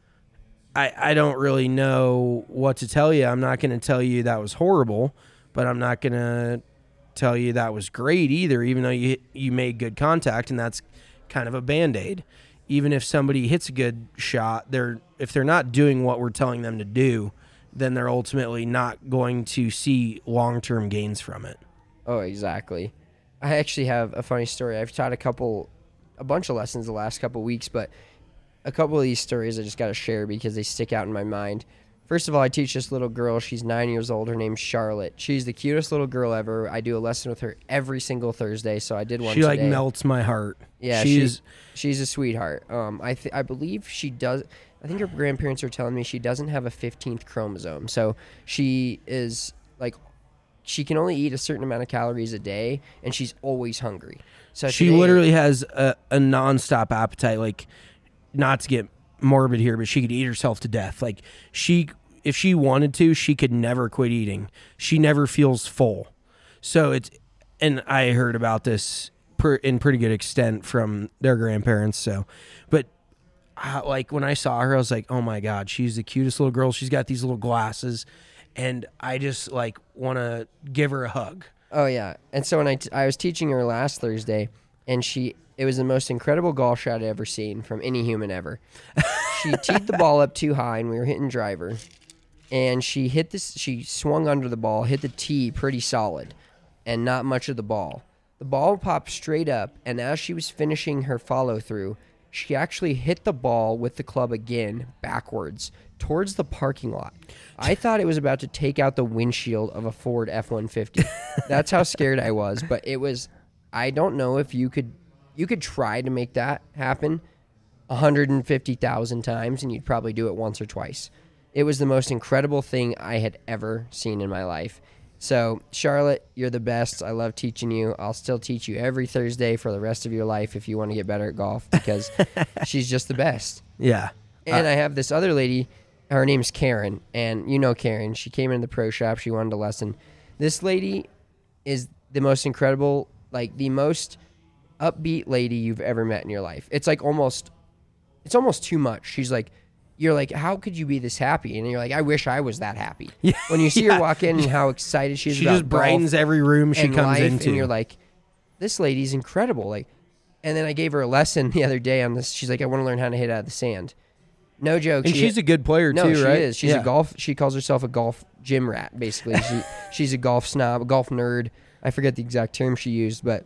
I, I don't really know what to tell you. I'm not going to tell you that was horrible, but I'm not going to tell you that was great either, even though you, you made good contact, and that's kind of a Band-Aid. Even if somebody hits a good shot, they're if they're not doing what we're telling them to do, then they're ultimately not going to see long-term gains from it. Oh, exactly. I actually have a funny story. I've taught a couple, a bunch of lessons the last couple weeks, but a couple of these stories I just got to share because they stick out in my mind. First of all, I teach this little girl. She's nine years old. Her name's Charlotte. She's the cutest little girl ever. I do a lesson with her every single Thursday, so I did one She today. like melts my heart. Yeah, she's she, she's a sweetheart. Um, I th- I believe she does. I think her grandparents are telling me she doesn't have a fifteenth chromosome, so she is like, she can only eat a certain amount of calories a day, and she's always hungry. So she today, literally has a, a nonstop appetite. Like, not to get morbid here, but she could eat herself to death. Like she, if she wanted to, she could never quit eating. She never feels full. So it's, and I heard about this per, in pretty good extent from their grandparents. So, but uh, like when I saw her, I was like, oh my God, she's the cutest little girl. She's got these little glasses and I just like want to give her a hug. Oh yeah. And so when I, t- I was teaching her last Thursday and she, it was the most incredible golf shot I'd ever seen from any human ever. She teed the ball up too high, and we were hitting driver. And she hit this. She swung under the ball, hit the tee pretty solid, and not much of the ball. The ball popped straight up, and as she was finishing her follow-through, she actually hit the ball with the club again, backwards, towards the parking lot. I thought it was about to take out the windshield of a Ford F one fifty. That's how scared I was, but it was... I don't know if you could... You could try to make that happen one hundred fifty thousand times, and you'd probably do it once or twice. It was the most incredible thing I had ever seen in my life. So, Charlotte, you're the best. I love teaching you. I'll still teach you every Thursday for the rest of your life if you want to get better at golf, because she's just the best. Yeah. And uh, I have this other lady. Her name's Karen, and you know Karen. She came into the pro shop. She wanted a lesson. This lady is the most incredible, like the most... upbeat lady you've ever met in your life. It's like almost, it's almost too much. She's like, you're like, how could you be this happy? And you're like, I wish I was that happy. Yeah. When you see yeah. her walk in and how excited she is she about just brightens golf every room she and comes life, into. and you're like, this lady's incredible. Like, and then I gave her a lesson the other day on this. She's like, I want to learn how to hit out of the sand. No joke. And she, she's a good player no, too, she right? is. She's yeah. a golf. She calls herself a golf gym rat, basically. She, she's a golf snob, a golf nerd. I forget the exact term she used, but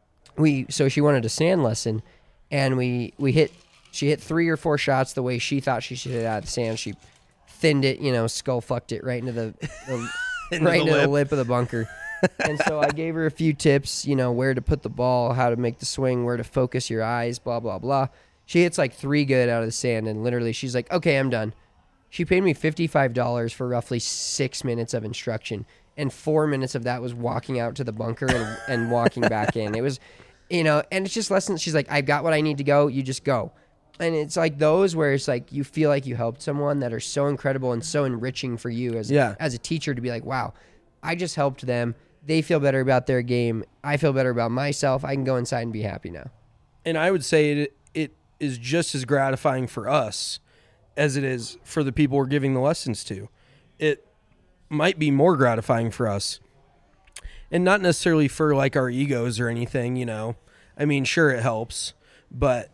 we. So she wanted a sand lesson, and we we hit. She hit three or four shots the way she thought she should hit out of the sand. She thinned it, you know, skull fucked it right into the, the into right the into lip. the lip of the bunker. And so I gave her a few tips, you know, where to put the ball, how to make the swing, where to focus your eyes, blah, blah, blah. She hits like three good out of the sand, and literally she's like, okay, I'm done. She paid me fifty-five dollars for roughly six minutes of instruction, and four minutes of that was walking out to the bunker and, and walking back in. It was You know, and it's just lessons. She's like, I've got what I need to go. You just go. And it's like those where it's like you feel like you helped someone that are so incredible and so enriching for you as, Yeah. as a teacher to be like, wow, I just helped them. They feel better about their game. I feel better about myself. I can go inside and be happy now. And I would say it, it is just as gratifying for us as it is for the people we're giving the lessons to. It might be more gratifying for us. And not necessarily for like our egos or anything, you know. I mean, sure, it helps. But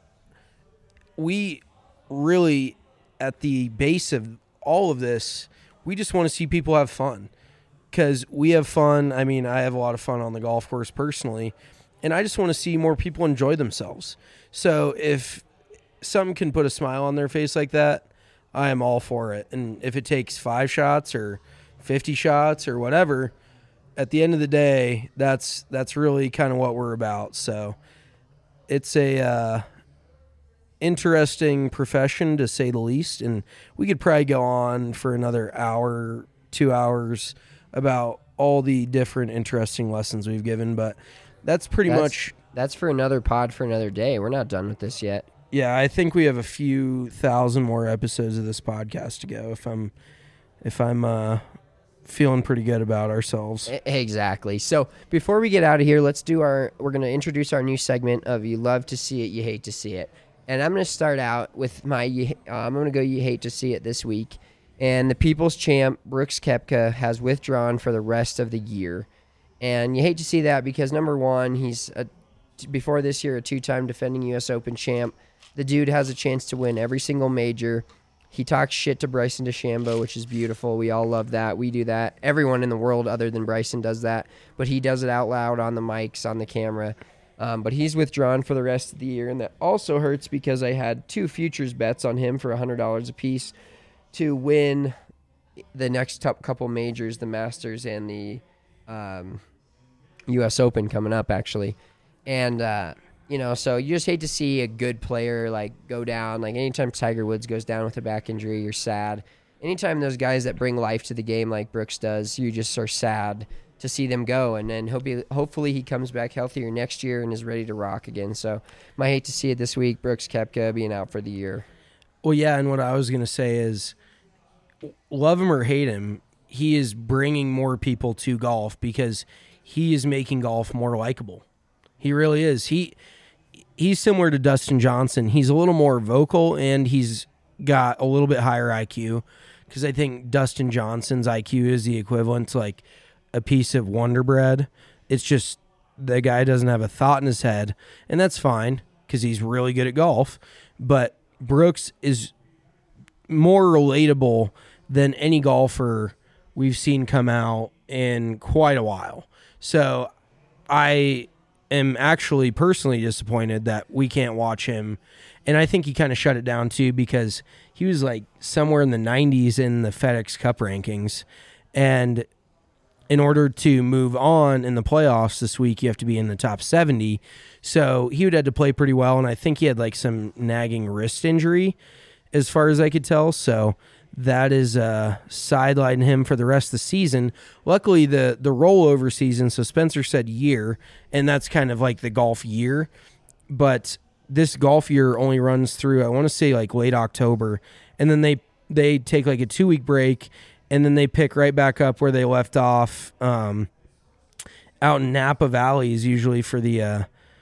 we really, at the base of all of this, we just want to see people have fun. Because we have fun. I mean, I have a lot of fun on the golf course personally. And I just want to see more people enjoy themselves. So if something can put a smile on their face like that, I am all for it. And if it takes five shots or fifty shots or whatever, at the end of the day, that's that's really kind of what we're about. So it's a uh, interesting profession, to say the least. And we could probably go on for another hour, two hours about all the different interesting lessons we've given. But that's pretty That's, much... That's for another pod for another day. We're not done with this yet. Yeah, I think we have a few thousand more episodes of this podcast to go if I'm if I'm uh, feeling pretty good about ourselves. E- Exactly. So before we get out of here, let's do our, we're going to introduce our new segment of You Love to See It, You Hate to See It. And I'm going to start out with my, you- uh, I'm going to go You Hate to See It this week. And the People's Champ, Brooks Koepka, has withdrawn for the rest of the year. And you hate to see that because, number one, he's, a, before this year, a two-time defending U S Open champ. The dude has a chance to win every single major. He talks shit to Bryson DeChambeau, which is beautiful. We all love that. We do that. Everyone in the world other than Bryson does that. But he does it out loud on the mics, on the camera. Um, but he's withdrawn for the rest of the year. And that also hurts because I had two futures bets on him for one hundred dollars a piece to win the next top couple majors, the Masters and the um, U S Open coming up, actually. And, uh, you know, so you just hate to see a good player, like, go down. Like, anytime Tiger Woods goes down with a back injury, you're sad. Anytime those guys that bring life to the game like Brooks does, you just are sad to see them go. And then hope he, hopefully he comes back healthier next year and is ready to rock again. So I hate to see it this week, Brooks Koepka being out for the year. Well, yeah, and what I was going to say is, love him or hate him, he is bringing more people to golf because he is making golf more likable. He really is. He he's similar to Dustin Johnson. He's a little more vocal and he's got a little bit higher I Q because I think Dustin Johnson's I Q is the equivalent to like a piece of Wonder Bread. It's just the guy doesn't have a thought in his head, and that's fine because he's really good at golf. But Brooks is more relatable than any golfer we've seen come out in quite a while. So I am actually personally disappointed that we can't watch him. And I think he kind of shut it down too because he was like somewhere in the nineties in the FedEx Cup rankings. And in order to move on in the playoffs this week, you have to be in the top seventy. So he would have to play pretty well. And I think he had like some nagging wrist injury as far as I could tell. So that is uh, sidelining him for the rest of the season. Luckily, the the rollover season, so Spencer said year, and that's kind of like the golf year. But this golf year only runs through, I want to say, like late October. And then they, they take like a two-week break, and then they pick right back up where they left off um, out in Napa Valley is usually for the uh,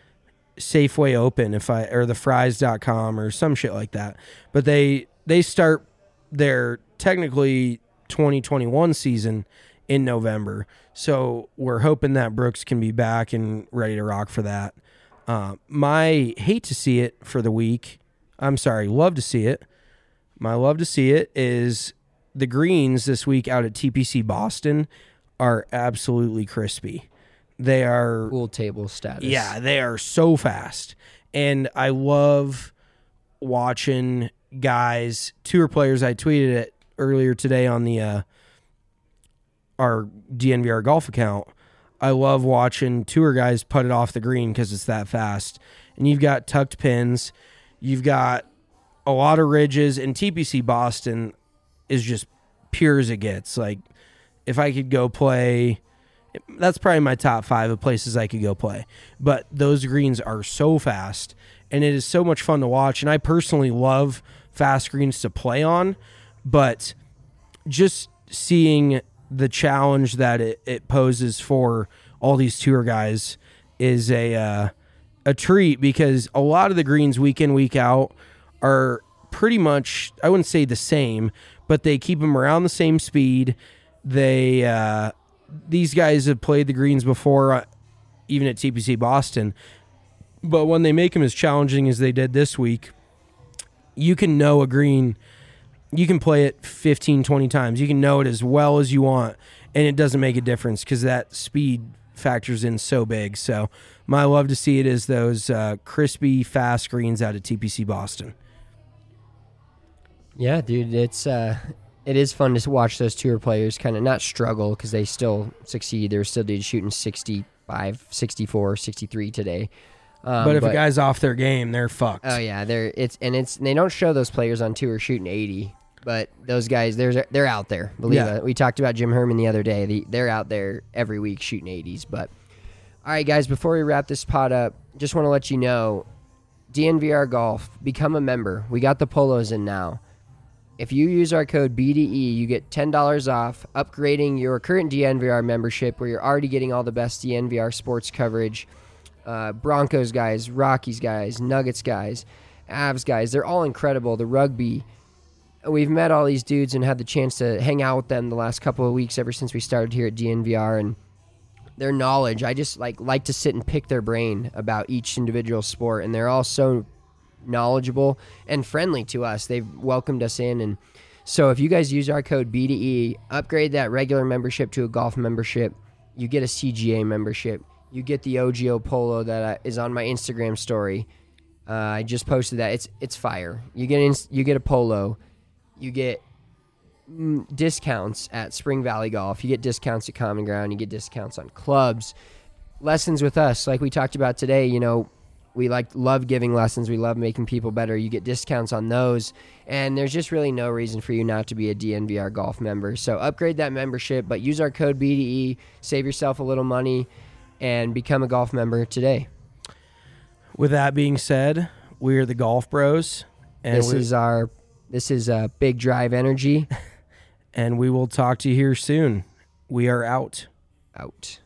Safeway Open if I or the fries dot com or some shit like that. But they they start their technically twenty twenty-one season in November. So we're hoping that Brooks can be back and ready to rock for that. Uh, my hate to see it for the week, I'm sorry, love to see it. My love to see it is the greens this week out at T P C Boston are absolutely crispy. They are Pool table status. Yeah, they are so fast. And I love watching guys, tour players. I tweeted it earlier today on the uh, our D N V R golf account. I love watching tour guys put it off the green because it's that fast. And you've got tucked pins. You've got a lot of ridges. And T P C Boston is just pure as it gets. Like, if I could go play that's probably my top five of places I could go play. But those greens are so fast, and it is so much fun to watch. And I personally love fast greens to play on, but just seeing the challenge that it, it poses for all these tour guys is a uh, a treat, because a lot of the greens week in, week out are pretty much, I wouldn't say the same, but they keep them around the same speed. They uh, these guys have played the greens before, uh, even at T P C Boston, but when they make them as challenging as they did this week, you can know a green, you can play it fifteen, twenty times. You can know it as well as you want, and it doesn't make a difference because that speed factors in so big. So my love to see it is those uh, crispy, fast greens out of T P C Boston. Yeah, dude, it's uh, it is fun to watch those tour players kind of not struggle because they still succeed. They're still dude shooting sixty-five, sixty-four, sixty-three today. Um, but if but, a guy's off their game, they're fucked. Oh yeah, they're it's and it's they don't show those players on tour shooting eighty, but those guys they're they're out there. Believe Yeah. it. We talked about Jim Herman the other day. The, they're out there every week shooting eighties. But all right, guys, before we wrap this pod up, just want to let you know, D N V R Golf, become a member. We got the polos in now. If you use our code B D E, you get ten dollars off upgrading your current D N V R membership, where you're already getting all the best D N V R sports coverage. Uh, Broncos guys, Rockies guys, Nuggets guys, Avs guys, they're all incredible. The rugby, we've met all these dudes and had the chance to hang out with them the last couple of weeks ever since we started here at D N V R, and their knowledge, I just like like to sit and pick their brain about each individual sport, and they're all so knowledgeable and friendly to us. They've welcomed us in, and so if you guys use our code B D E, upgrade that regular membership to a golf membership, you get a C G A membership. You get the O G O polo that is on my Instagram story. Uh, I just posted that. It's it's fire. You get in, you get a polo. You get mm, discounts at Spring Valley Golf. You get discounts at Common Ground. You get discounts on clubs. Lessons with us, like we talked about today. You know, we like love giving lessons. We love making people better. You get discounts on those, and there's just really no reason for you not to be a D N V R Golf member. So upgrade that membership, but use our code B D E. Save yourself a little money, and become a golf member today. With that being said, we're the Golf Bros, and this we- is our this is uh, Big Drive Energy, and we will talk to you here soon. We are out. out.